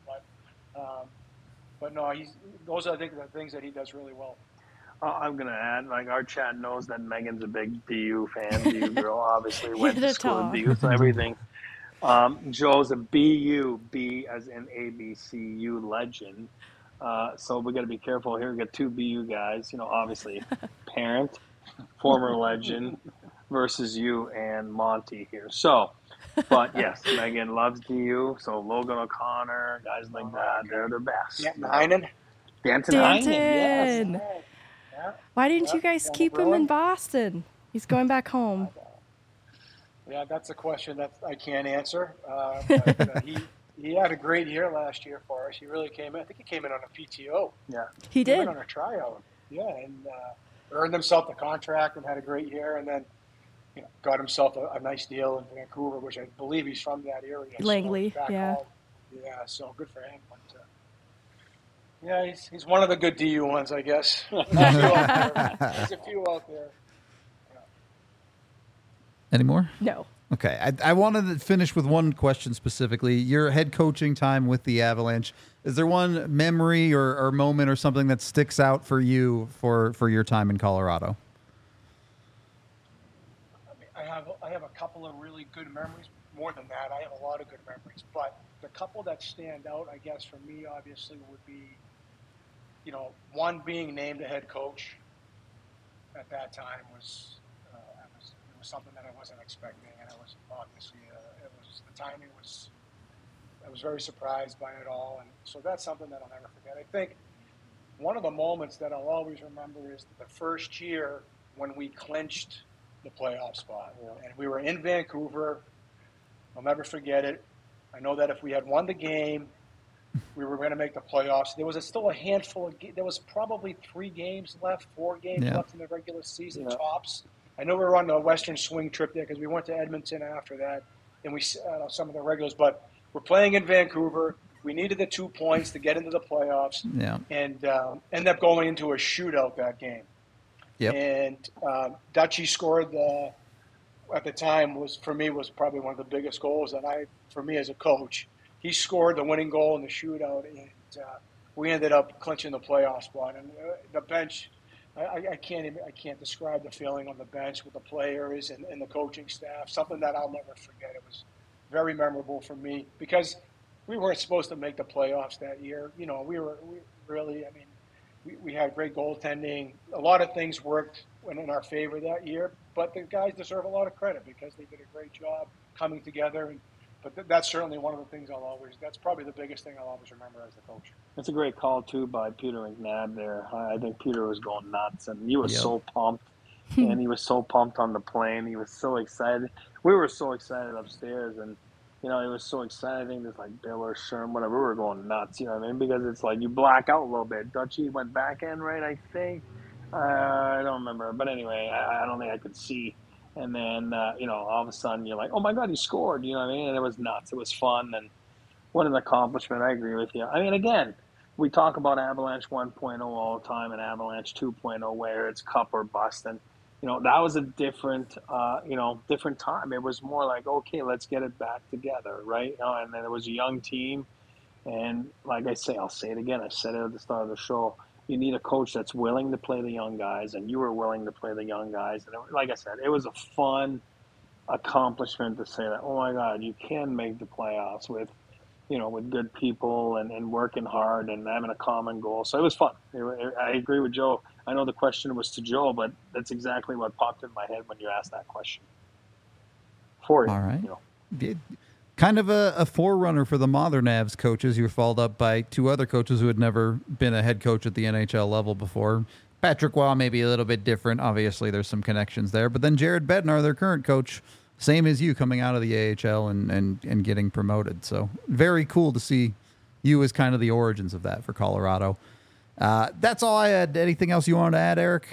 but no, those are, I think, the things that he does really well. I'm going to add, our chat knows that Megan's a big BU fan. BU girl, obviously went to school at BU, so everything. Joe's a BU, B as in ABCU legend. So we got to be careful here. We got two BU guys, obviously parent, former legend versus you and Monty here. So, but yes, Megan loves DU. So Logan O'Connor, guys like that, they're the best. Yeah, Heinen. Danton. Yes. Yeah. Why didn't you guys keep him in Boston? He's going back home. Yeah, that's a question that I can't answer. But, he had a great year last year for us. He really came in. I think he came in on a PTO. Yeah, he did. Came in on a tryout. Yeah, and earned himself the contract and had a great year. And then, got himself a nice deal in Vancouver, which I believe he's from that area. Langley, so yeah. Home. Yeah, so good for him. But, yeah, he's one of the good DU ones, I guess. There's a few out there. Yeah. Any more? No. Okay, I wanted to finish with one question specifically. Your head coaching time with the Avalanche, is there one memory or moment or something that sticks out for you for your time in Colorado? I have a couple of really good memories. More than that, I have a lot of good memories. But the couple that stand out, I guess, for me, obviously, would be, one being named a head coach at that time was something that I wasn't expecting, and it was obviously the timing was. I was very surprised by it all, and so that's something that I'll never forget. I think one of the moments that I'll always remember is the first year when we clinched the playoff spot, and we were in Vancouver. I'll never forget it. I know that if we had won the game, we were going to make the playoffs. There was still a handful of there was probably 4 games left in the regular season, tops. I know we were on the Western Swing trip there because we went to Edmonton after that, and we some of the regulars. But we're playing in Vancouver. We needed the 2 points to get into the playoffs, and ended up going into a shootout that game. Yep. And Dutchie scored at the time was probably one of the biggest goals for me as a coach. He scored the winning goal in the shootout, and we ended up clinching the playoff spot. And the bench. I can't describe the feeling on the bench with the players and the coaching staff. Something that I'll never forget. It was very memorable for me because we weren't supposed to make the playoffs that year. We really. I mean, we had great goaltending. A lot of things worked in our favor that year, but the guys deserve a lot of credit because they did a great job coming together. But that's certainly one of the things that's probably the biggest thing I'll always remember as a coach. It's a great call, too, by Peter McNabb there. I think Peter was going nuts, and he was so pumped, and he was so pumped on the plane. He was so excited. We were so excited upstairs, and, he was so excited. I think there's like Bill or Sherm, whatever. We were going nuts, you know what I mean? Because it's like you black out a little bit. Dutchie went back end, right, I think? I don't remember. But anyway, I don't think I could see. And then, all of a sudden you're like, oh, my God, he scored. You know what I mean? And it was nuts. It was fun. And what an accomplishment. I agree with you. I mean, again, we talk about Avalanche 1.0 all the time and Avalanche 2.0 where it's cup or bust. And, that was a different time. It was more like, okay, let's get it back together, right? And then it was a young team. And like I say, I'll say it again. I said it at the start of the show. You need a coach that's willing to play the young guys, and you were willing to play the young guys. And like I said, it was a fun accomplishment to say that, oh, my God, you can make the playoffs with good people and working hard and having a common goal. So it was fun. I agree with Joe. I know the question was to Joe, but that's exactly what popped in my head when you asked that question. For you. All right. Kind of a forerunner for the modern Avs coaches. You were followed up by two other coaches who had never been a head coach at the NHL level before. Patrick Waugh may be a little bit different. Obviously, there's some connections there. But then Jared Bednar, their current coach, same as you, coming out of the AHL and getting promoted. So very cool to see you as kind of the origins of that for Colorado. That's all I had. Anything else you wanted to add, Eric?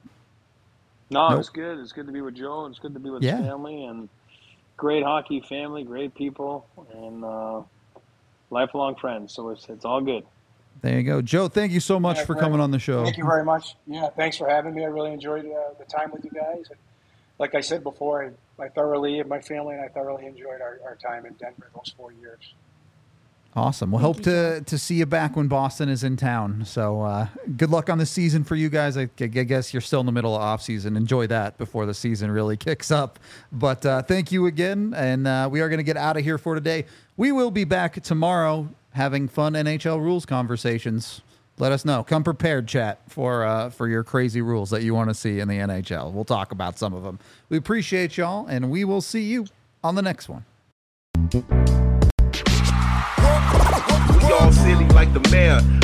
No, nope. It's good. It's good to be with Joe. It's good to be with family and great hockey family, great people, and lifelong friends. So it's all good. There you go. Joe, thank you so much for coming on the show. Thank you very much. Yeah, thanks for having me. I really enjoyed the time with you guys. And like I said before, my family and I thoroughly enjoyed our time in Denver those 4 years. Awesome. We'll hope to see you back when Boston is in town. So good luck on the season for you guys. I guess you're still in the middle of off season. Enjoy that before the season really kicks up. But thank you again. And we are going to get out of here for today. We will be back tomorrow having fun NHL rules conversations. Let us know. Come prepared, chat, for your crazy rules that you want to see in the NHL. We'll talk about some of them. We appreciate y'all, and we will see you on the next one. We all silly like the mayor.